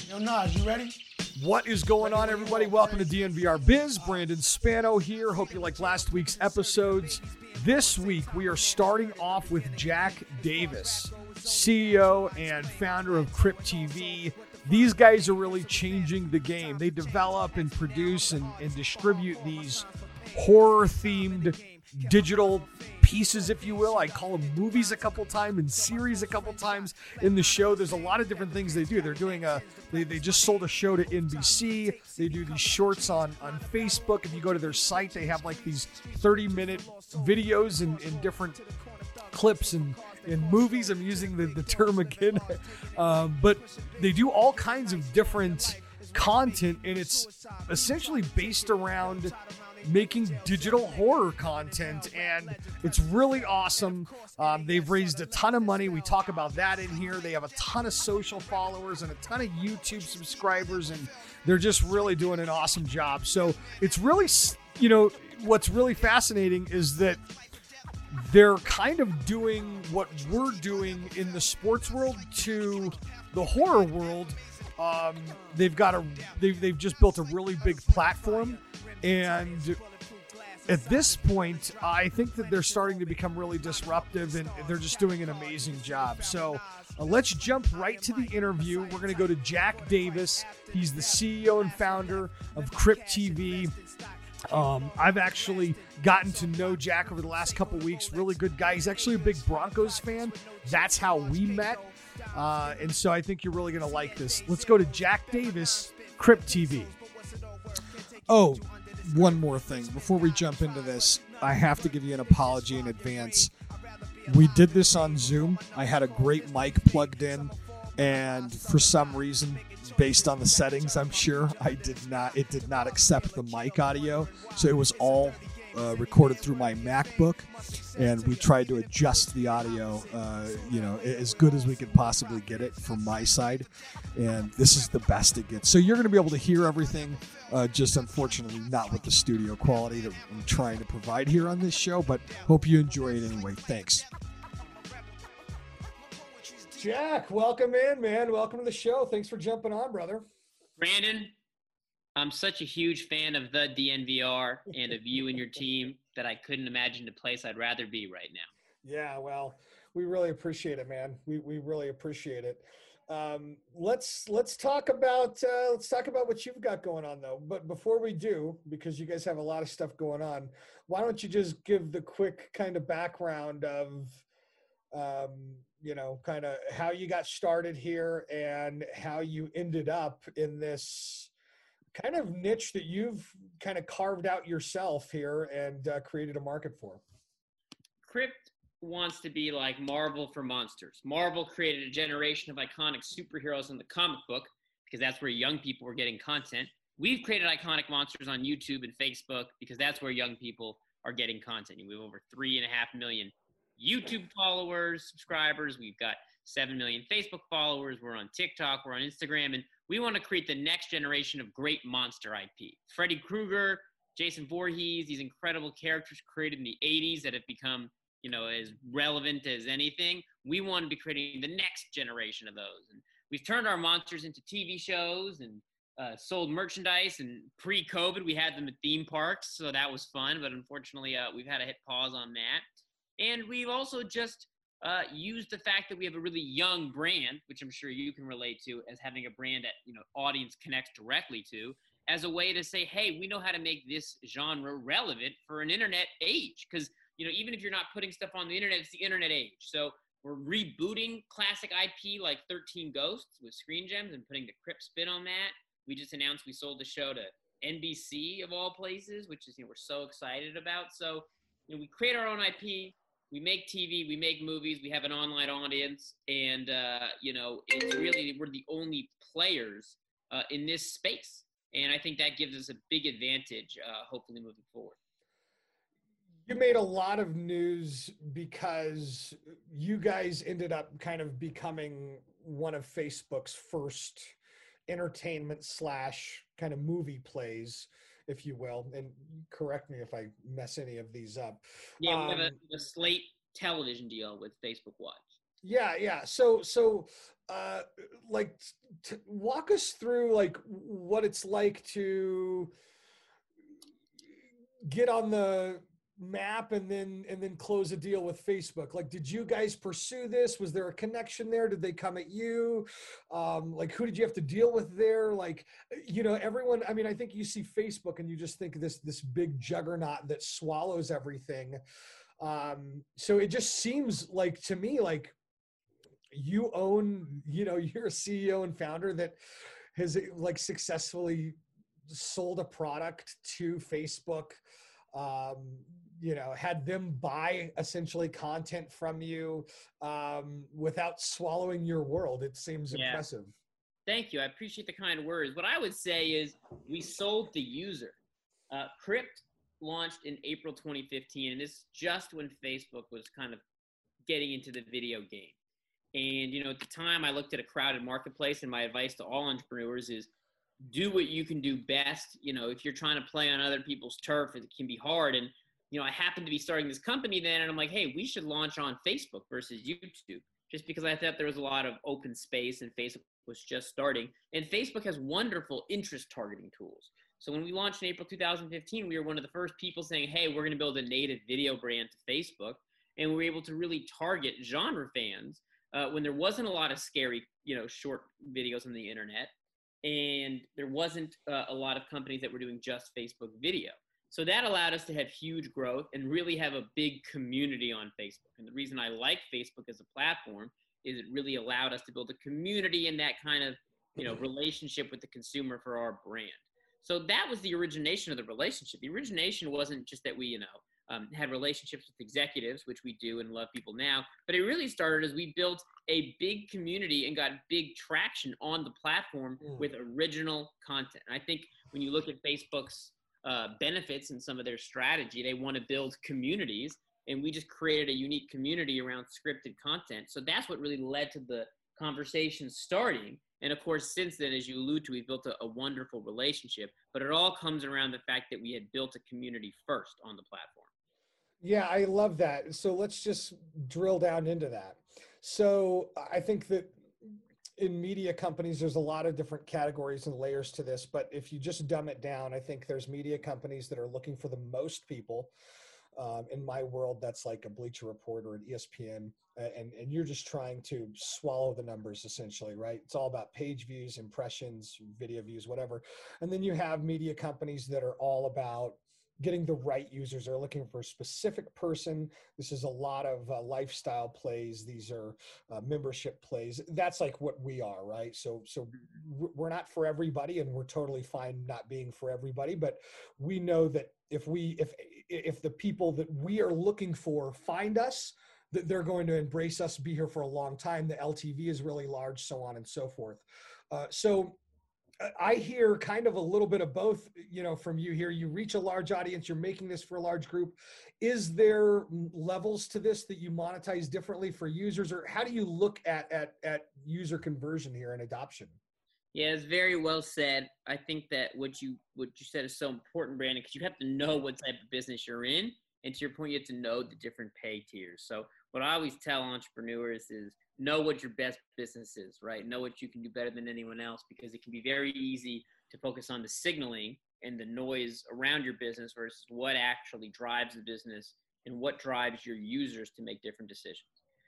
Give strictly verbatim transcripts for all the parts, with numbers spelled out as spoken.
Yo, Nas, you ready? What is going on, everybody? Welcome to D N V R Biz. Brandon Spano here. Hope you liked last week's episodes. This week, we are starting off with Jack Davis, C E O and founder of Crypt T V. These guys are really changing the game. They develop and produce and, and distribute these horror-themed digital pieces, if you will. I call them movies a couple times and series a couple times in the show. There's a lot of different things they do. They're doing a, they, they just sold a show to N B C. They do these shorts on, on Facebook. If you go to their site, they have like these thirty minute videos and, and different clips and in movies. I'm using the, the term again. um, but they do all kinds of different content, and it's essentially based around making digital horror content, and it's really awesome. Um, they've raised a ton of money. We talk about that in here. They have a ton of social followers and a ton of YouTube subscribers, and they're just really doing an awesome job. So it's really, you know, what's really fascinating is that they're kind of doing what we're doing in the sports world to the horror world. Um, they've got a, they've, they've just built a really big platform. And at this point, I think that they're starting to become really disruptive, and they're just doing an amazing job. So uh, let's jump right to the interview. We're going to go to Jack Davis. He's the C E O and founder of Crypt T V. Um, I've actually gotten to know Jack over the last couple weeks. Really good guy. He's actually a big Broncos fan. That's how we met. Uh, and so I think you're really going to like this. Let's go to Jack Davis, Crypt T V. Oh, one more thing. Before we jump into this, I have to give you an apology in advance. We did this on Zoom. I had a great mic plugged in, and for some reason, based on the settings, I'm sure, I did not. It did not accept the mic audio, so it was all uh, recorded through my MacBook, and we tried to adjust the audio, uh, you know, as good as we could possibly get it from my side, and this is the best it gets. So you're going to be able to hear everything, uh, just unfortunately not with the studio quality that I'm trying to provide here on this show, but hope you enjoy it anyway. Thanks. Jack, welcome in, man. Welcome to the show. Thanks for jumping on, brother. Brandon, I'm such a huge fan of the D N V R and of you and your team that I couldn't imagine a place I'd rather be right now. Yeah, well, we really appreciate it, man. We we really appreciate it. Um, let's let's talk about uh, let's talk about what you've got going on, though. But before we do, because you guys have a lot of stuff going on, why don't you just give the quick kind of background of um, you know, kind of how you got started here and how you ended up in this kind of niche that you've kind of carved out yourself here and uh, created a market for. Crypt wants to be like Marvel for monsters. Marvel created a generation of iconic superheroes in the comic book because that's where young people were getting content. We've created iconic monsters on YouTube and Facebook because that's where young people are getting content. We have over three and a half million YouTube followers, subscribers. We've got seven million Facebook followers. We're on TikTok. We're on Instagram. And we want to create the next generation of great monster I P. Freddy Krueger, Jason Voorhees, these incredible characters created in the eighties that have become, you know, as relevant as anything. We want to be creating the next generation of those. And we've turned our monsters into T V shows and uh, sold merchandise. And pre-COVID, we had them at theme parks. So that was fun. But unfortunately, uh, we've had to hit pause on that. And we've also just uh, used the fact that we have a really young brand, which I'm sure you can relate to, as having a brand that, you know, audience connects directly to, as a way to say, hey, we know how to make this genre relevant for an internet age. Because, you know, even if you're not putting stuff on the internet, it's the internet age. So we're rebooting classic I P like thirteen Ghosts with Screen Gems and putting the Crypt spin on that. We just announced we sold the show to N B C of all places, which is, you know, we're so excited about. So, you know, we create our own I P. We make T V, we make movies, we have an online audience, and, uh, you know, it's really, we're the only players uh, in this space. And I think that gives us a big advantage, uh, hopefully moving forward. You made a lot of news because you guys ended up kind of becoming one of Facebook's first entertainment slash kind of movie plays, if you will, and correct me if I mess any of these up. Yeah, we um, have a, a Slate television deal with Facebook Watch. Yeah, yeah. So, so, uh, like, t- walk us through like what it's like to get on the map and then and then close a deal with Facebook. Like, did you guys pursue this? Was there a connection there? Did they come at you? Um, like, who did you have to deal with there? Like, you know, everyone. I mean, I think you see Facebook and you just think this this big juggernaut that swallows everything. Um, so it just seems like to me like you own, you know, you're a C E O and founder that has like successfully sold a product to Facebook, um, you know, had them buy essentially content from you um, without swallowing your world. It seems Yeah. impressive. Thank you. I appreciate the kind words. What I would say is we sold the user. Uh, Crypt launched in April twenty fifteen, and this is just when Facebook was kind of getting into the video game. And, you know, at the time I looked at a crowded marketplace, and my advice to all entrepreneurs is do what you can do best. You know, if you're trying to play on other people's turf, it can be hard. And, you know, I happened to be starting this company then, and I'm like, hey, we should launch on Facebook versus YouTube, just because I thought there was a lot of open space and Facebook was just starting. And Facebook has wonderful interest targeting tools. So when we launched in April two thousand fifteen, we were one of the first people saying, hey, we're going to build a native video brand to Facebook. And we were able to really target genre fans uh, when there wasn't a lot of scary, you know, short videos on the internet. And there wasn't uh, a lot of companies that were doing just Facebook video. So that allowed us to have huge growth and really have a big community on Facebook. And the reason I like Facebook as a platform is it really allowed us to build a community and that kind of, you know, relationship with the consumer for our brand. So that was the origination of the relationship. The origination wasn't just that we, you know, um, had relationships with executives, which we do and love people now, but it really started as we built a big community and got big traction on the platform mm. with original content. And I think when you look at Facebook's uh, benefits and some of their strategy, they want to build communities, and we just created a unique community around scripted content. So that's what really led to the conversation starting. And of course, since then, as you allude to, we've built a, a wonderful relationship, but it all comes around the fact that we had built a community first on the platform. Yeah, I love that. So let's just drill down into that. So I think that in media companies, there's a lot of different categories and layers to this, but if you just dumb it down, I think there's media companies that are looking for the most people. Um, in my world, that's like a Bleacher Report or an E S P N, and, and you're just trying to swallow the numbers essentially, right? It's all about page views, impressions, video views, whatever. And then you have media companies that are all about getting the right users. They're looking for a specific person. This is a lot of uh, lifestyle plays. These are uh, membership plays. That's like what we are, right? So, so we're not for everybody, and we're totally fine not being for everybody. But we know that if we, if if the people that we are looking for find us, that they're going to embrace us, be here for a long time. The L T V is really large, so on and so forth. Uh, so. I hear kind of a little bit of both, you know, from you here. You reach a large audience, you're making this for a large group. Is there levels to this that you monetize differently for users, or how do you look at, at, at user conversion here and adoption? Yeah, it's very well said. I think that what you, what you said is so important, Brandon, because you have to know what type of business you're in. And to your point, you have to know the different pay tiers. So what I always tell entrepreneurs is know what your best business is, right? Know what you can do better than anyone else, because it can be very easy to focus on the signaling and the noise around your business versus what actually drives the business and what drives your users to make different decisions.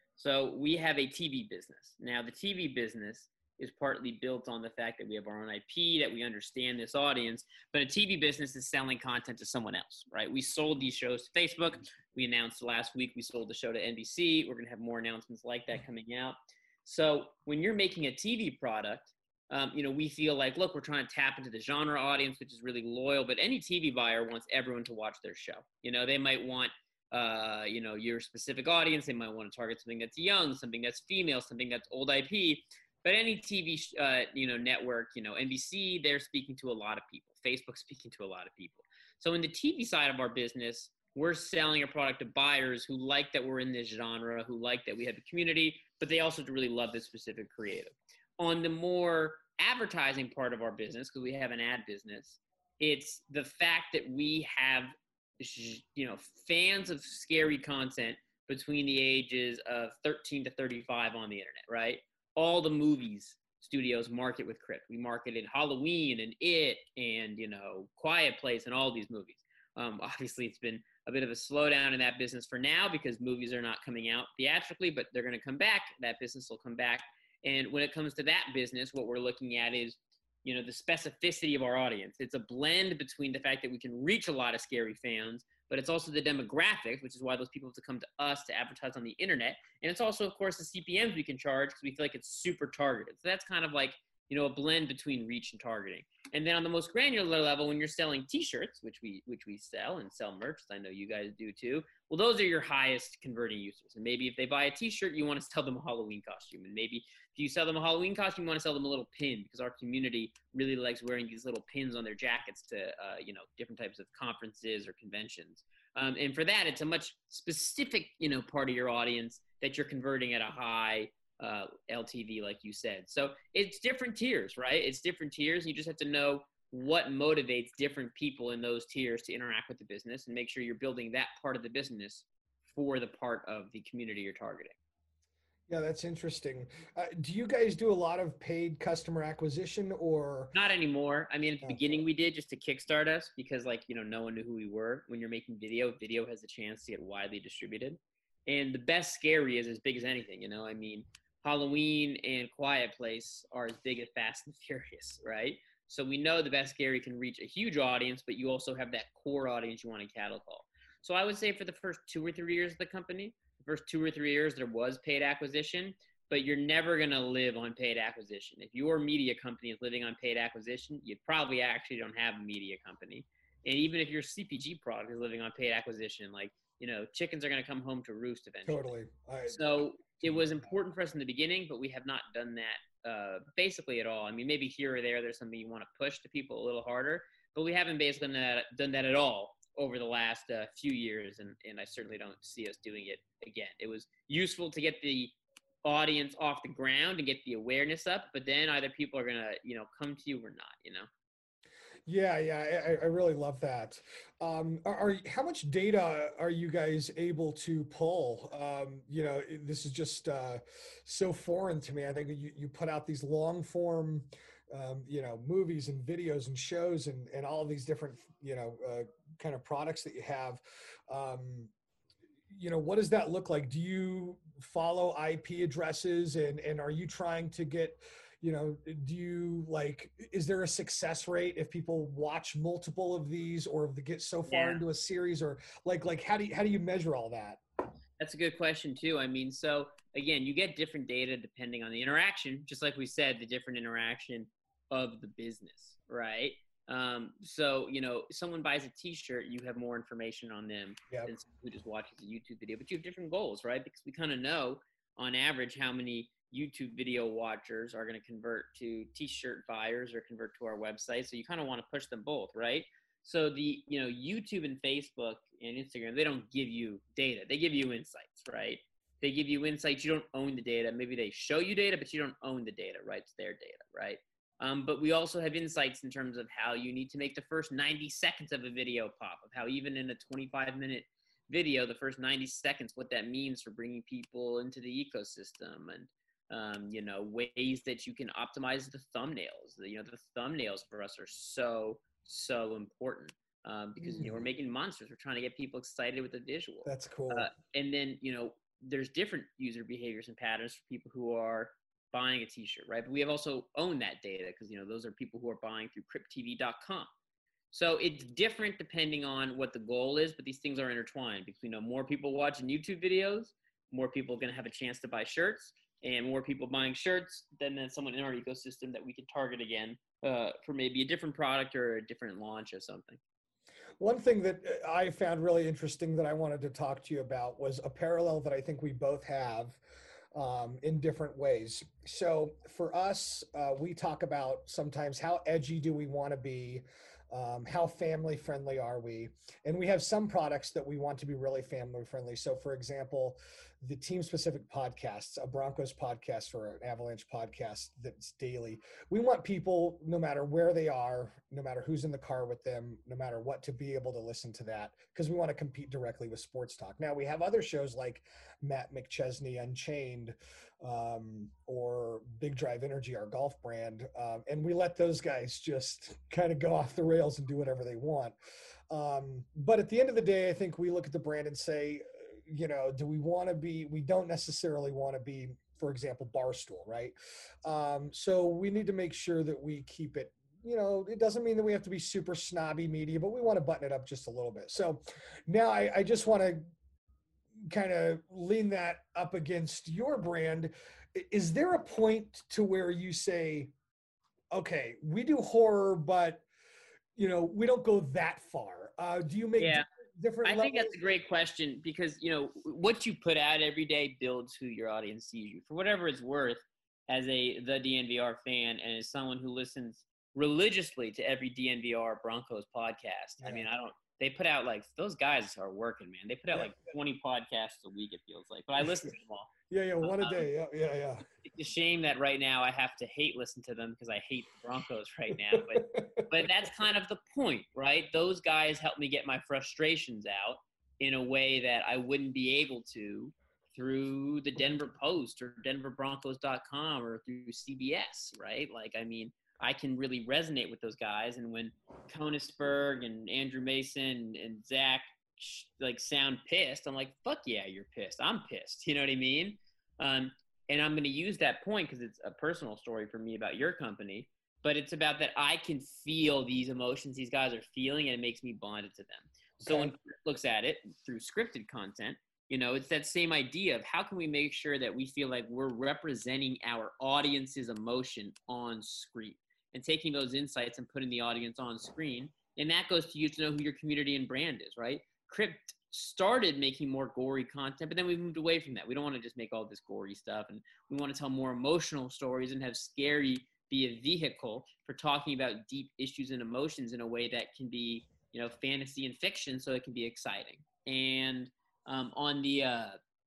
So we have a T V business. Now, the T V business is partly built on the fact that we have our own I P, that we understand this audience, but a T V business is selling content to someone else, right? We sold these shows to Facebook. We announced last week we sold the show to N B C. We're going to have more announcements like that coming out. So when you're making a T V product, um, you know, we feel like, look, we're trying to tap into the genre audience, which is really loyal, but any T V buyer wants everyone to watch their show. You know, they might want, uh, you know, your specific audience. They might want to target something that's young, something that's female, something that's old I P. But any T V, uh, you know, network, you know, N B C, they're speaking to a lot of people. Facebook speaking to a lot of people. So in the T V side of our business, we're selling a product to buyers who like that we're in this genre, who like that we have a community, but they also really love this specific creative. On the more advertising part of our business, because we have an ad business, it's the fact that we have, you know, fans of scary content between the ages of thirteen to thirty-five on the internet, right? All the movies studios market with Crypt. We marketed Halloween and It and, you know, Quiet Place and all these movies. Um, obviously, it's been a bit of a slowdown in that business for now because movies are not coming out theatrically, but they're going to come back. That business will come back. And when it comes to that business, what we're looking at is, you know, the specificity of our audience. It's a blend between the fact that we can reach a lot of scary fans, but it's also the demographics, which is why those people have to come to us to advertise on the internet. And it's also, of course, the C P Ms we can charge because we feel like it's super targeted. So that's kind of like, you know, a blend between reach and targeting. And then on the most granular level, when you're selling t-shirts, which we which we sell and sell merch, I know you guys do too. Well, those are your highest converting users. And maybe if they buy a t-shirt, you want to sell them a Halloween costume. And maybe if you sell them a Halloween costume, you want to sell them a little pin because our community really likes wearing these little pins on their jackets to, uh, you know, different types of conferences or conventions. Um, and for that, it's a much specific, you know, part of your audience that you're converting at a high uh, L T V, like you said. So it's different tiers, right? It's different tiers. You just have to know what motivates different people in those tiers to interact with the business and make sure you're building that part of the business for the part of the community you're targeting. Yeah, that's interesting. Uh, do you guys do a lot of paid customer acquisition or? Not anymore. I mean, at the okay. beginning we did just to kickstart us because, like, you know, no one knew who we were. When you're making video, video has a chance to get widely distributed. And the best scary is as big as anything, you know? I mean, Halloween and Quiet Place are as big as Fast and Furious, right? So we know the best scary can reach a huge audience, but you also have that core audience you want to cattle call. So I would say for the first two or three years of the company, the first two or three years, there was paid acquisition, but you're never going to live on paid acquisition. If your media company is living on paid acquisition, you probably actually don't have a media company. And even if your C P G product is living on paid acquisition, like, you know, chickens are going to come home to roost eventually. Totally. I, so it was important for us in the beginning, but we have not done that uh, basically at all. I mean, maybe here or there, there's something you want to push to people a little harder, but we haven't basically done that, done that at all over the last uh, few years. And, and I certainly don't see us doing it again. It was useful to get the audience off the ground and get the awareness up, but then either people are going to, you know, come to you or not, you know? Yeah, yeah, I, I really love that. Um, are, are how much data are you guys able to pull? Um, you know, this is just uh, so foreign to me. I think you, you put out these long form, um, you know, movies and videos and shows and, and all of these different, you know, uh, kind of products that you have. Um, you know, what does that look like? Do you follow I P addresses and, and are you trying to get, you know, do you like, is there a success rate if people watch multiple of these or if they get so far yeah. into a series or like, like how do you, how do you measure all that? That's a good question too. I mean, so again, you get different data depending on the interaction, just like we said, the different interaction of the business, right? Um, so, you know, if someone buys a t-shirt, you have more information on them yep. than someone who just watches a YouTube video, but you have different goals, right? Because we kind of know on average how many YouTube video watchers are going to convert to t-shirt buyers or convert to our website. So you kind of want to push them both, right? So the, you know, YouTube and Facebook and Instagram, they don't give you data. They give you insights, right? They give you insights. You don't own the data. Maybe they show you data, but you don't own the data, right? It's their data, right? Um, but we also have insights in terms of how you need to make the first ninety seconds of a video pop, of how even in a twenty-five minute video, the first ninety seconds, what that means for bringing people into the ecosystem and, Um, you know, ways that you can optimize the thumbnails. You know, the thumbnails for us are so, so important um, because, you know, we're making monsters. We're trying to get people excited with the visual. That's cool. Uh, and then, you know, there's different user behaviors and patterns for people who are buying a t-shirt, right? But we have also owned that data because, you know, those are people who are buying through crypt T V dot com. So it's different depending on what the goal is, but these things are intertwined because, you know, more people watching YouTube videos, more people are going to have a chance to buy shirts. And more people buying shirts, then there's someone in our ecosystem that we can target again uh, for maybe a different product or a different launch or something. One thing that I found really interesting that I wanted to talk to you about was a parallel that I think we both have um, in different ways. So for us, uh, we talk about sometimes how edgy do we want to be Um, how family friendly are we? And we have some products that we want to be really family friendly. So, for example, the team specific podcasts, a Broncos podcast or an Avalanche podcast that's daily. We want people, no matter where they are, no matter who's in the car with them, no matter what, to be able to listen to that because we want to compete directly with sports talk. Now, we have other shows like Matt McChesney Unchained, um, or Big Drive Energy, our golf brand. Um, and we let those guys just kind of go off the rails and do whatever they want. Um, but at the end of the day, I think we look at the brand and say, you know, do we want to be, we don't necessarily want to be, for example, Barstool, right? Um, so we need to make sure that we keep it, you know, it doesn't mean that we have to be super snobby media, but we want to button it up just a little bit. So now I, I just want to kind of lean that up against your brand. Is there a point to where you say, okay, we do horror, but you know, we don't go that far? Uh, do you make yeah. different, different I levels? think that's a great question because, you know, what you put out every day builds who your audience sees you. For whatever it's worth, as a the D N V R fan and as someone who listens religiously to every D N V R Broncos podcast, yeah. I mean, I don't, they put out like, those guys are working, man. They put out yeah. like twenty podcasts a week, it feels like, but I listen to them all. Yeah, yeah, one um, a day. Yeah, yeah, yeah. It's a shame that right now I have to hate listen to them because I hate the Broncos right now. But but that's kind of the point, right? Those guys help me get my frustrations out in a way that I wouldn't be able to through the Denver Post or Denver Broncos dot com or through C B S, right? Like, I mean, I can really resonate with those guys. And when Konisberg and Andrew Mason and Zach like sound pissed, I'm like, fuck yeah, you're pissed. I'm pissed. You know what I mean? Um, and I'm going to use that point because it's a personal story for me about your company, but it's about that I can feel these emotions these guys are feeling and it makes me bonded to them. Okay. So when Chris looks at it through scripted content, you know, it's that same idea of how can we make sure that we feel like we're representing our audience's emotion on screen and taking those insights and putting the audience on screen. And that goes to you to know who your community and brand is, right? Crypt started making more gory content, but then we moved away from that. We don't want to just make all this gory stuff, and we want to tell more emotional stories and have Scary be a vehicle for talking about deep issues and emotions in a way that can be, you know, fantasy and fiction, so it can be exciting. And um, on the uh,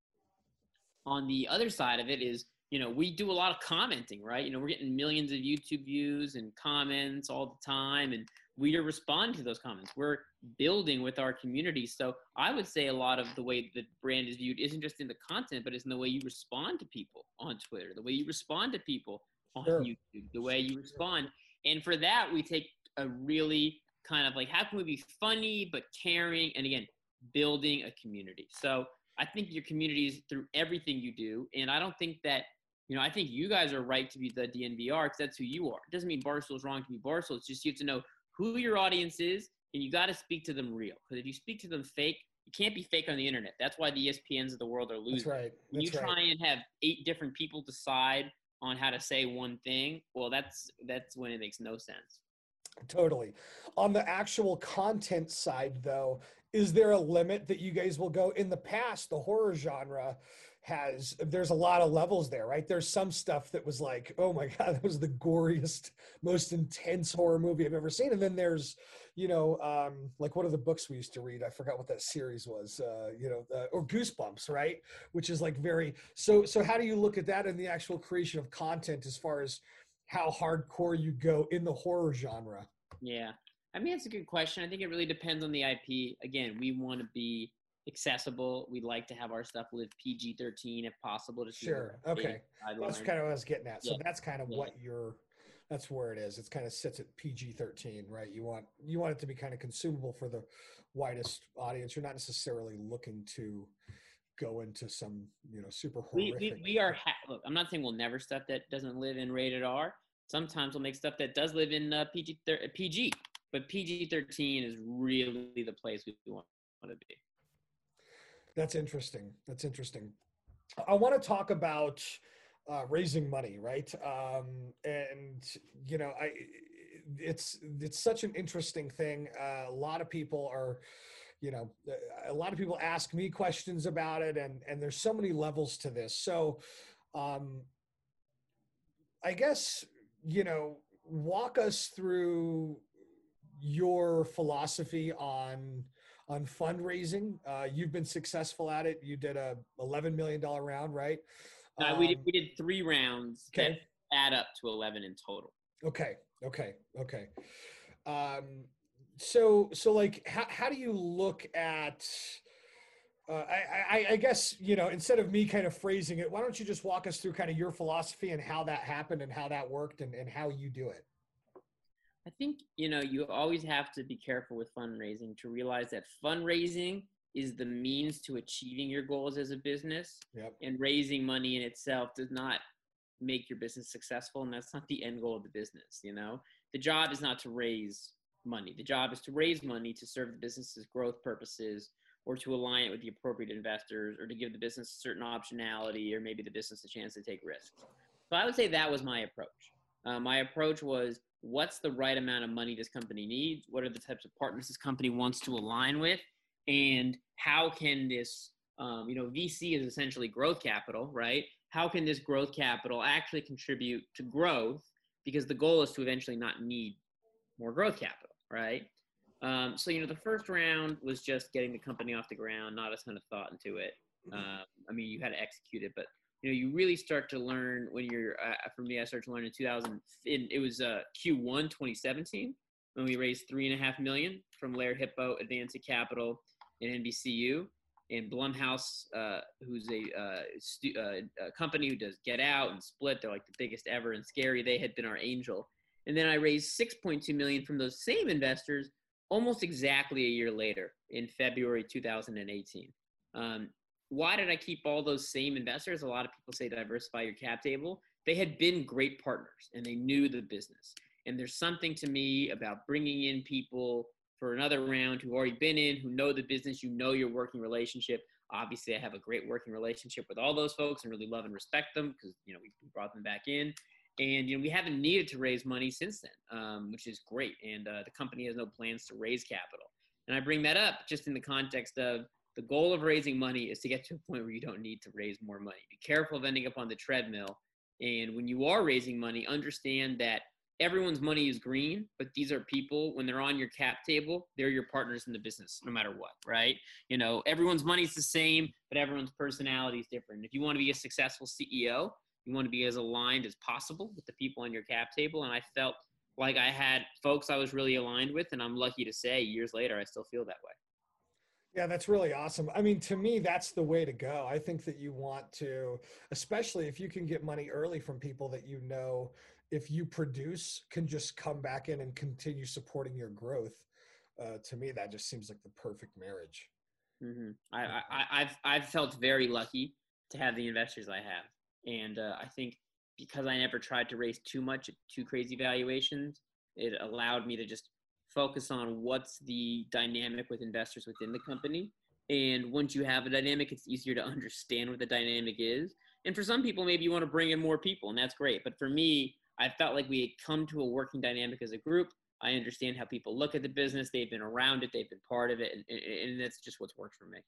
on the other side of it is, you know, we do a lot of commenting, right? You know, we're getting millions of YouTube views and comments all the time, and we respond to those comments. We're building with our community. So I would say a lot of the way the brand is viewed isn't just in the content, but it's in the way you respond to people on Twitter, the way you respond to people on sure. YouTube, the way you respond. And for that, we take a really kind of like, how can we be funny but caring? And again, building a community. So I think your community is through everything you do. And I don't think that, you know, I think you guys are right to be the D N V R because that's who you are. It doesn't mean Barstool is wrong to be Barstool. It's just you have to know who your audience is, and you got to speak to them real. Because if you speak to them fake, you can't be fake on the internet. That's why the E S P Ns of the world are losing. That's right. When That's you try right. and have eight different people decide on how to say one thing, well, that's that's when it makes no sense. Totally. On the actual content side, though, is there a limit that you guys will go? In the past, the horror genre has, there's a lot of levels there, right? There's some stuff that was like, oh my God, that was the goriest, most intense horror movie I've ever seen. And then there's, you know, um, like one of the books we used to read, I forgot what that series was, uh, you know, uh, or Goosebumps, right? Which is like very, so, so how do you look at that in the actual creation of content as far as how hardcore you go in the horror genre? Yeah. I mean, it's a good question. I think it really depends on the I P. Again, we want to be accessible. We'd like to have our stuff live P G thirteen if possible. To sure. Okay. That's kind of what I was getting at. So yeah. that's kind of yeah. what you're, that's where it is. It's kind of sits at P G thirteen, right? You want, you want it to be kind of consumable for the widest audience. You're not necessarily looking to go into some, you know, super horrific. We, we, we are, ha- look, I'm not saying we'll never stuff that doesn't live in rated R. Sometimes we'll make stuff that does live in uh, P G, P G, but P G thirteen is really the place we want to be. That's interesting. That's interesting. I want to talk about uh, raising money, right? Um, and you know, I it's it's such an interesting thing. Uh, a lot of people are, you know, a lot of people ask me questions about it, and and there's so many levels to this. So, um, I guess, you know, walk us through your philosophy on on fundraising. Uh, you've been successful at it. You did a eleven million dollars round, right? Uh, we did Um, we did three rounds that okay. add up to eleven in total. Okay. Okay. Okay. Um, so so like how how do you look at uh, I, I I guess you know instead of me kind of phrasing it, why don't you just walk us through kind of your philosophy and how that happened and how that worked and, and how you do it? I think, you know, you always have to be careful with fundraising to realize that fundraising is the means to achieving your goals as a business. Yep. And raising money in itself does not make your business successful. And that's not the end goal of the business. You know, the job is not to raise money. The job is to raise money to serve the business's growth purposes, or to align it with the appropriate investors, or to give the business certain optionality, or maybe the business a chance to take risks. So I would say that was my approach. Uh, my approach was, what's the right amount of money this company needs? What are the types of partners this company wants to align with? And how can this, um, you know, V C is essentially growth capital, right? How can this growth capital actually contribute to growth? Because the goal is to eventually not need more growth capital, right? Um, so, you know, the first round was just getting the company off the ground, not a ton of thought into it. Um, I mean, you had to execute it, but you know, you really start to learn when you're, uh, for me, I started to learn in two thousand, in, it was uh, Q one twenty seventeen, when we raised three and a half million from Laird Hippo, Advanced Capital, and N B C U. And Blumhouse, uh, who's a, uh, stu- uh, a company who does Get Out and Split, they're like the biggest ever, and Scary, they had been our angel. And then I raised six point two million from those same investors almost exactly a year later in February two thousand eighteen. Um, why did I keep all those same investors? A lot of people say diversify your cap table. They had been great partners and they knew the business. And there's something to me about bringing in people for another round who've already been in, who know the business, you know your working relationship. Obviously, I have a great working relationship with all those folks and really love and respect them because, you know, we brought them back in. And, you know, we haven't needed to raise money since then, um, which is great. And uh, the company has no plans to raise capital. And I bring that up just in the context of the goal of raising money is to get to a point where you don't need to raise more money. Be careful of ending up on the treadmill. And when you are raising money, understand that everyone's money is green, but these are people, when they're on your cap table, they're your partners in the business, no matter what, right? You know, everyone's money is the same, but everyone's personality is different. If you want to be a successful C E O, you want to be as aligned as possible with the people on your cap table. And I felt like I had folks I was really aligned with, and I'm lucky to say years later, I still feel that way. Yeah, that's really awesome. I mean, to me, that's the way to go. I think that you want to, especially if you can get money early from people that you know, if you produce, can just come back in and continue supporting your growth. Uh, to me, that just seems like the perfect marriage. Mm-hmm. I, I, I've, I've felt very lucky to have the investors I have. And uh, I think because I never tried to raise too much at too crazy valuations, it allowed me to just focus on what's the dynamic with investors within the company. And once you have a dynamic, it's easier to understand what the dynamic is. And for some people, maybe you want to bring in more people, and that's great. But for me, I felt like we had come to a working dynamic as a group. I understand how people look at the business. They've been around it. They've been part of it. And, and that's just what's worked for me.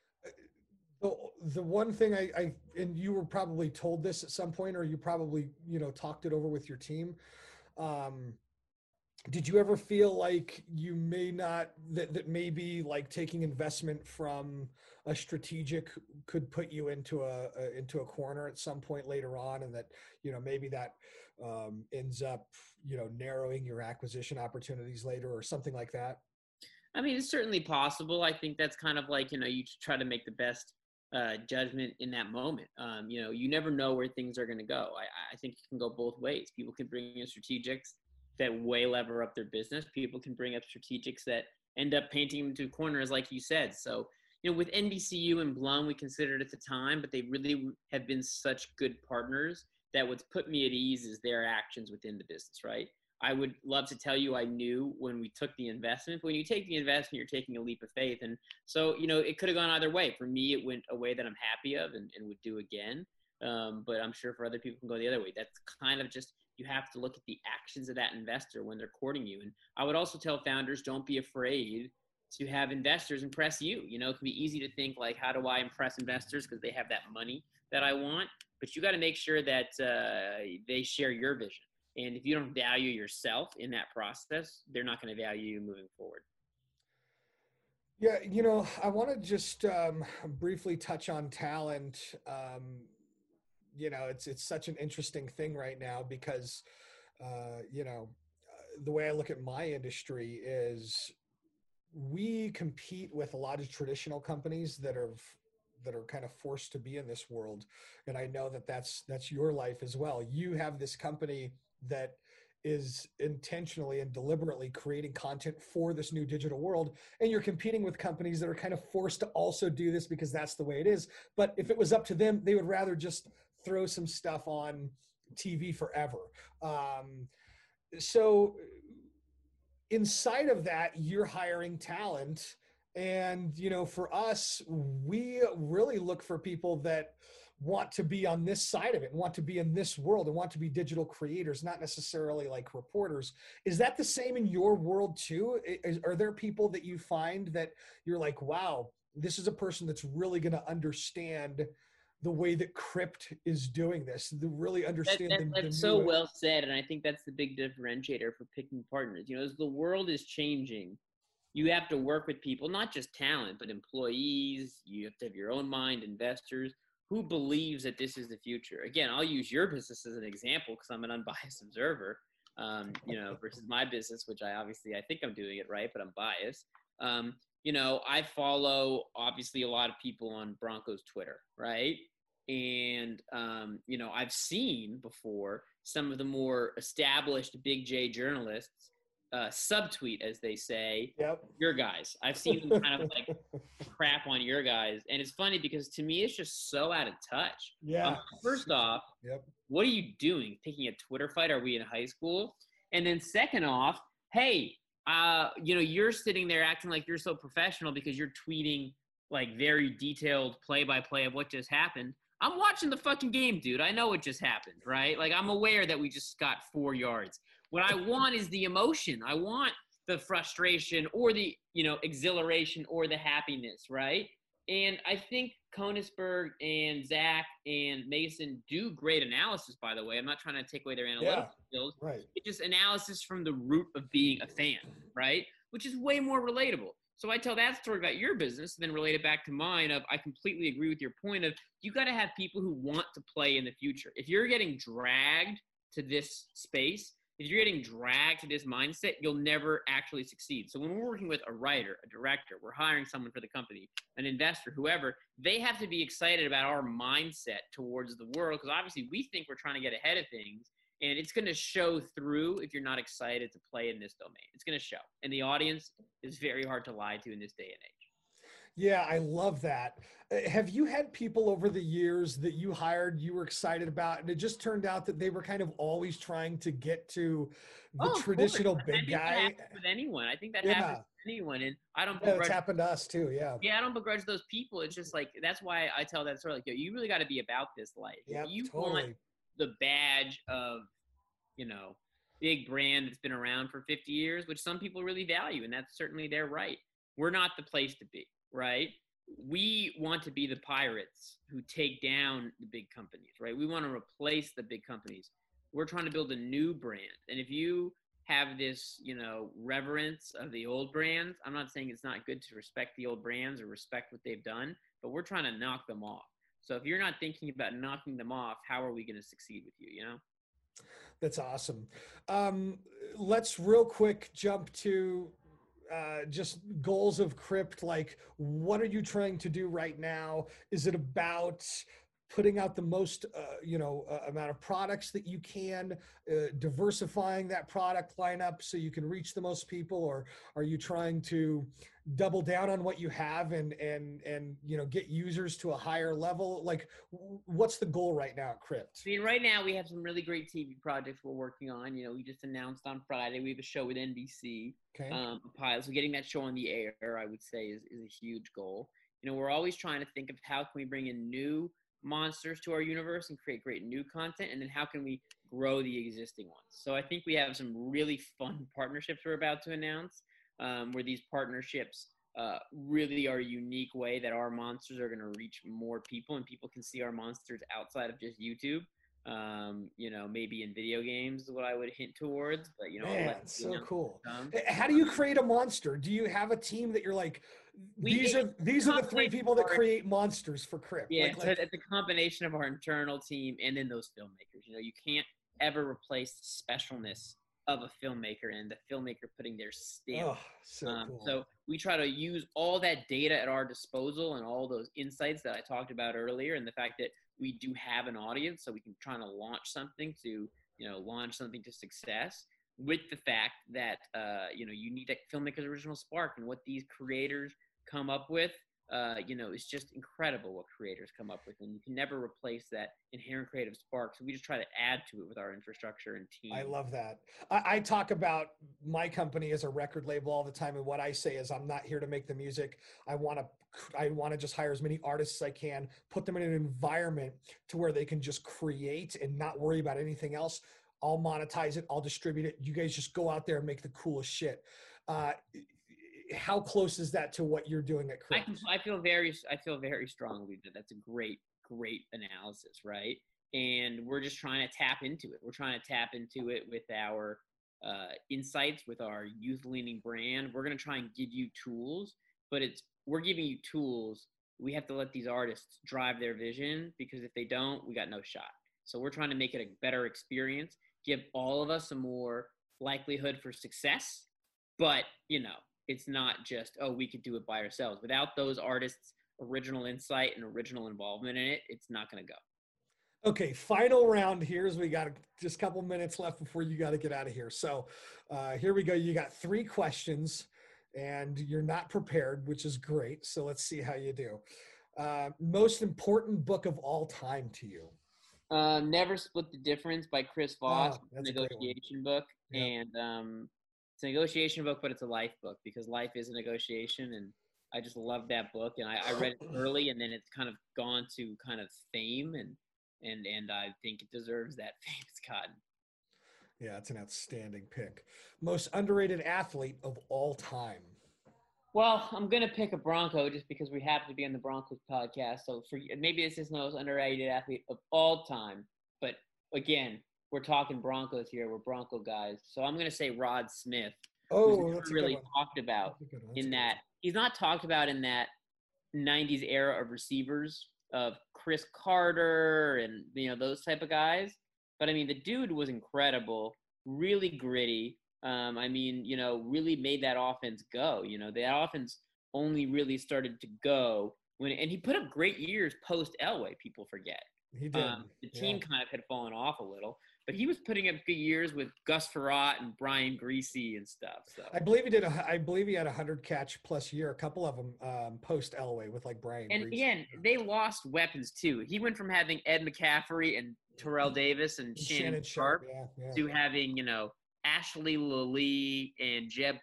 The, the one thing I, I, and you were probably told this at some point, or you probably, you know, talked it over with your team. Um, did you ever feel like you may not, that, that maybe like taking investment from a strategic could put you into a, a into a corner at some point later on, and that, you know, maybe that um, ends up, you know, narrowing your acquisition opportunities later or something like that? I mean, it's certainly possible. I think that's kind of like, you know, you try to make the best uh, judgment in that moment. Um, you know, you never know where things are going to go. I, I think it can go both ways. People can bring in strategics that way lever up their business. People can bring up strategics that end up painting them to corners, like you said. So, you know, with N B C U and Blum, we considered at the time, but they really have been such good partners that what's put me at ease is their actions within the business, right? I would love to tell you I knew when we took the investment. But when you take the investment, you're taking a leap of faith. And so, you know, it could have gone either way. For me, it went a way that I'm happy of and, and would do again. Um, but I'm sure for other people, it can go the other way. That's kind of just, you have to look at the actions of that investor when they're courting you. And I would also tell founders, don't be afraid to have investors impress you. You know, it can be easy to think like, how do I impress investors because they have that money that I want? But you got to make sure that uh, they share your vision. And if you don't value yourself in that process, they're not going to value you moving forward. Yeah, you know, I want to just um, briefly touch on talent. Um, you know, it's it's such an interesting thing right now because, uh, you know, uh, the way I look at my industry is we compete with a lot of traditional companies that are that are kind of forced to be in this world, and I know that that's that's your life as well. You have this company that is intentionally and deliberately creating content for this new digital world, and you're competing with companies that are kind of forced to also do this because that's the way it is. But if it was up to them, they would rather just throw some stuff on T V forever. Um, so inside of that, you're hiring talent. And, you know, for us, we really look for people that want to be on this side of it and want to be in this world and want to be digital creators, not necessarily like reporters. Is that the same in your world too? Is, are there people that you find that you're like, wow, this is a person that's really going to understand the way that Crypt is doing this, to really understand that, that, the, that's the so new... well said, and I think that's the big differentiator for picking partners. You know, as the world is changing, you have to work with people, not just talent, but employees. You have to have your own mind, investors who believes that this is the future. Again, I'll use your business as an example because I'm an unbiased observer, um, you know, versus my business, which I obviously I think I'm doing it right, but I'm biased. Um, you know, I follow obviously a lot of people on Broncos Twitter, right? And, um, you know, I've seen before some of the more established Big J journalists uh, subtweet, as they say, Yep. your guys. I've seen them kind of like crap on your guys. And it's funny because to me, it's just so out of touch. Yeah. Um, first off, yep. What are you doing? Picking a Twitter fight? Are we in high school? And then second off, hey, uh, you know, you're sitting there acting like you're so professional because you're tweeting like very detailed play-by-play of what just happened. I'm watching the fucking game, dude. I know what just happened, right? Like, I'm aware that we just got four yards. What I want is the emotion. I want the frustration or the, you know, exhilaration or the happiness, right? And I think Koenigsberg and Zach and Mason do great analysis, by the way. I'm not trying to take away their analytical yeah, skills. Right. It's just analysis from the root of being a fan, right? Which is way more relatable. So I tell that story about your business, and then relate it back to mine of I completely agree with your point of you got to have people who want to play in the future. If you're getting dragged to this space, if you're getting dragged to this mindset, you'll never actually succeed. So when we're working with a writer, a director, we're hiring someone for the company, an investor, whoever, they have to be excited about our mindset towards the world because obviously we think we're trying to get ahead of things. And it's going to show through if you're not excited to play in this domain. It's going to show. And the audience is very hard to lie to in this day and age. Yeah, I love that. Uh, have you had people over the years that you hired, you were excited about, and it just turned out that they were kind of always trying to get to the oh, traditional big I think guy? That happens with anyone. I think that yeah. happens with anyone. And I don't yeah, begrudge. It's happened to us too. Yeah. Yeah, I don't begrudge those people. It's just like, that's why I tell that story. Like, yo, you really got to be about this life. Yeah, You totally. want the badge of, you know, big brand that's been around for fifty years, which some people really value, and that's certainly their right. We're not the place to be, right? We want to be the pirates who take down the big companies, right? We want to replace the big companies. We're trying to build a new brand. And if you have this, you know, reverence of the old brands, I'm not saying it's not good to respect the old brands or respect what they've done, but we're trying to knock them off. So if you're not thinking about knocking them off, how are we going to succeed with you, you know? That's awesome. Um, let's real quick jump to uh, just goals of Crypt. Like, what are you trying to do right now? Is it about putting out the most, uh, you know, uh, amount of products that you can, uh, diversifying that product lineup so you can reach the most people, or are you trying to double down on what you have and and and you know get users to a higher level? Like, what's the goal right now at Crypt? I mean, right now we have some really great T V projects we're working on. You know, we just announced on Friday we have a show with N B C, okay. um, a pilot. So getting that show on the air, I would say, is, is a huge goal. You know, we're always trying to think of how can we bring in new monsters to our universe and create great new content, and then how can we grow the existing ones. So I think we have some really fun partnerships we're about to announce, um, where these partnerships uh, really are a unique way that our monsters are going to reach more people and people can see our monsters outside of just YouTube. Um, you know, maybe in video games is what I would hint towards, but you know, I'll Man, let it's you so know. cool. Um, H- How do you create a monster? Do you have a team that you're like, we these it, are these are the three combination people of that our create monsters for Crypt? Yeah, Like so like it's a combination of our internal team and then those filmmakers. You know, you can't ever replace the specialness of a filmmaker and the filmmaker putting their stamp. oh, so Um, cool. so we try to use all that data at our disposal and all those insights that I talked about earlier, and the fact that we do have an audience, so we can try to launch something to, you know, launch something to success. With the fact that uh, you know, you need that filmmaker's original spark, and what these creators come up with, uh, you know, it's just incredible what creators come up with, and you can never replace that inherent creative spark. So we just try to add to it with our infrastructure and team. I love that. I, I talk about my company as a record label all the time, and what I say is, I'm not here to make the music. I want to, I want to just hire as many artists as I can, put them in an environment to where they can just create and not worry about anything else. I'll monetize it. I'll distribute it. You guys just go out there and make the coolest shit. Uh, how close is that to what you're doing at I Crypt? can, I feel very, I feel very strongly that that's a great, great analysis, right? And we're just trying to tap into it. We're trying to tap into it with our uh, insights, with our youth-leaning brand. We're going to try and give you tools, but it's we're giving you tools. We have to let these artists drive their vision, because if they don't, we got no shot. So we're trying to make it a better experience, give all of us a more likelihood for success. But, you know, it's not just, oh, we could do it by ourselves. Without those artists' original insight and original involvement in it, it's not going to go. Okay, final round here, as we got just a couple minutes left before you got to get out of here. So uh, here we go. You got three questions, and you're not prepared, which is great. So let's see how you do. Uh, most important book of all time to you? Uh, Never Split the Difference by Chris Voss. Oh, that's a great one. Negotiation book. Yep. And um, it's a negotiation book, but it's a life book, because life is a negotiation. And I just love that book. And I, I read it early, and then it's kind of gone to kind of fame. And and and I think it deserves that fame it's gotten. Yeah, it's an outstanding pick. Most underrated athlete of all time? Well, I'm gonna pick a Bronco just because we happen to be on the Broncos podcast. So for maybe this is the most underrated athlete of all time, but again, we're talking Broncos here. We're Bronco guys, so I'm gonna say Rod Smith. Oh, who's that's never really a good one. talked about That's a good one. That's in a good that one. he's not talked about in that nineties era of receivers of Chris Carter and, you know, those type of guys. But I mean, the dude was incredible, really gritty. Um, I mean, you know, really made that offense go. You know, the offense only really started to go when, and he put up great years post Elway. People forget. He did. Um, the team Yeah. kind of had fallen off a little, but he was putting up good years with Gus Frerotte and Brian Greasy and stuff. So I believe he did. A, I believe he had a hundred catch plus year. A couple of them um, post Elway with like Brian. And Grease. again, they lost weapons too. He went from having Ed McCaffrey and Terrell Davis and Shannon, Shannon Sharp, Sharp, yeah, yeah. to having, you know, Ashley Lally and Jeb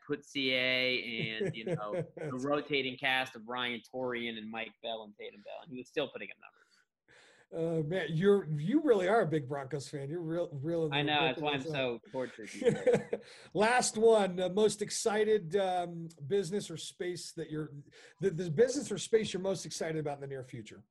Putzier and, you know, the rotating cast of Ryan Torian and Mike Bell and Tatum Bell. And he was still putting up numbers. Uh, man, you're you really are a big Broncos fan. You're real, real. I know, that's why I'm so tortured. Last one. Uh, most excited um, business or space that you're the, the business or space you're most excited about in the near future?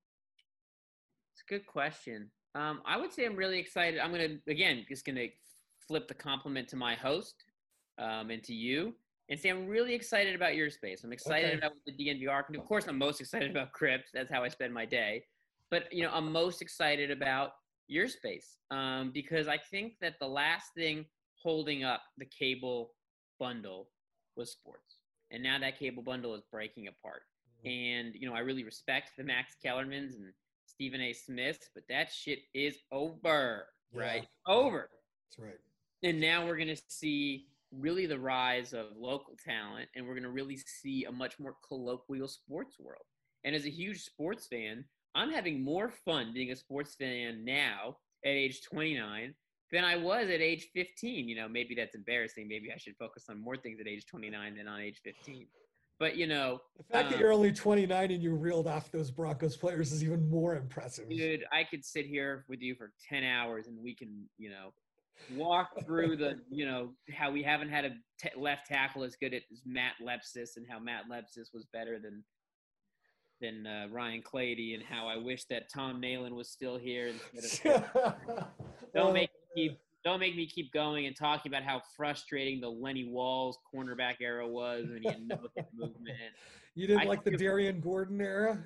It's a good question. Um, I would say I'm really excited. I'm gonna again just gonna flip the compliment to my host um, and to you, and say I'm really excited about your space. I'm excited Okay. about what the D N V R can do. Of course, I'm most excited about Crypt. That's how I spend my day. But, you know, I'm most excited about your space um, because I think that the last thing holding up the cable bundle was sports. And now that cable bundle is breaking apart. And, you know, I really respect the Max Kellermans and Stephen A. Smiths, but that shit is over, right? Yeah. Over. That's right. And now we're going to see really the rise of local talent, and we're going to really see a much more colloquial sports world. And as a huge sports fan, I'm having more fun being a sports fan now at age twenty-nine than I was at age fifteen. You know, maybe that's embarrassing. Maybe I should focus on more things at age twenty-nine than on age fifteen. But, you know. The fact um, that you're only twenty-nine and you reeled off those Broncos players is even more impressive. Dude, I could sit here with you for ten hours and we can, you know, walk through the, you know, how we haven't had a t- left tackle as good as Matt Lepsis and how Matt Lepsis was better than than uh, Ryan Clady, and how I wish that Tom Nalen was still here instead of. don't make me keep don't make me keep going and talking about how frustrating the Lenny Walls cornerback era was when he had no hit movement. You didn't I like the Darian Gordon era?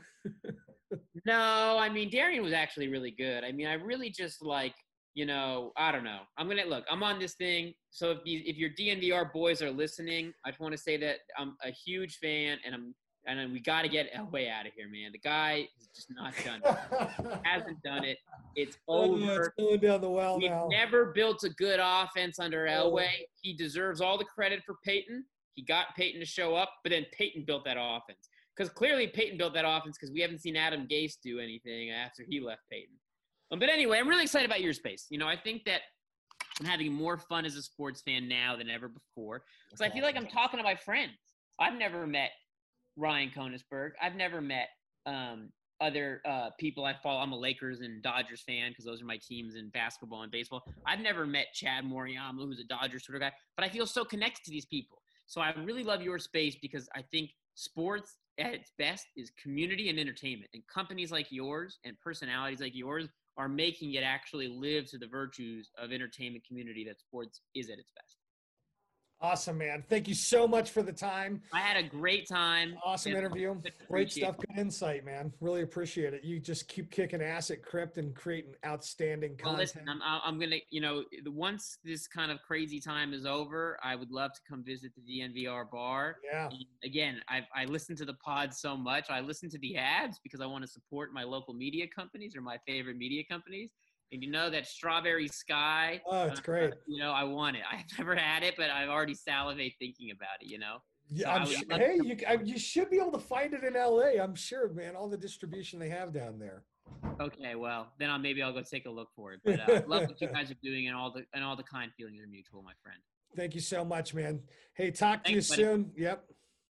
No, I mean Darian was actually really good. I mean, I really just like. You know, I don't know. I'm gonna look. I'm on this thing. So if you, if your D N V R boys are listening, I just want to say that I'm a huge fan, and I'm and we got to get Elway out of here, man. The guy has just not done it. Hasn't done it. It's over. It's going down the well We've now. never built a good offense under Elway. He deserves all the credit for Peyton. He got Peyton to show up, but then Peyton built that offense. Because clearly Peyton built that offense because we haven't seen Adam Gase do anything after he left Peyton. Um, but anyway, I'm really excited about your space. You know, I think that I'm having more fun as a sports fan now than ever before because I feel like I'm talking to my friends. I've never met Ryan Koenigsberg. I've never met um, other uh, people I follow. I'm a Lakers and Dodgers fan because those are my teams in basketball and baseball. I've never met Chad Moriyama, who's a Dodgers sort of guy, but I feel so connected to these people. So I really love your space because I think sports at its best is community and entertainment. And companies like yours and personalities like yours are making it actually live to the virtues of entertainment community that sports is at its best. Awesome, man. Thank you so much for the time. I had a great time. Awesome interview. Great stuff. It. Good insight, man. Really appreciate it. You just keep kicking ass at Crypt and creating outstanding content. Well, listen, I'm, I'm going to, you know, once this kind of crazy time is over, I would love to come visit the D N V R bar. Yeah. And again, I I listen to the pod so much. I listen to the ads because I want to support my local media companies or my favorite media companies. And you know that Strawberry Sky. Oh, it's great. Uh, you know, I want it. I've never had it, but I've already salivate thinking about it, you know? Yeah, so I'm sure, hey, you, I, you should be able to find it in L A. I'm sure, man, all the distribution they have down there. Okay, well, then I'll, maybe I'll go take a look for it. But uh, I love what you guys are doing and all the and all the kind feelings are mutual, my friend. Thank you so much, man. Hey, talk to Thanks, you buddy. soon. Yep.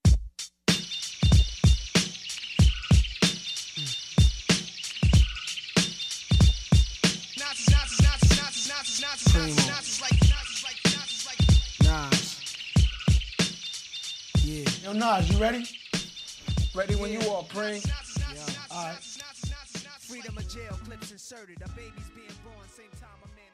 Nas. Yeah. Yo, Nas, you ready? Ready when you are, Pring. Yeah. All right. Freedom of jail, clips inserted. A baby's being born, same time a man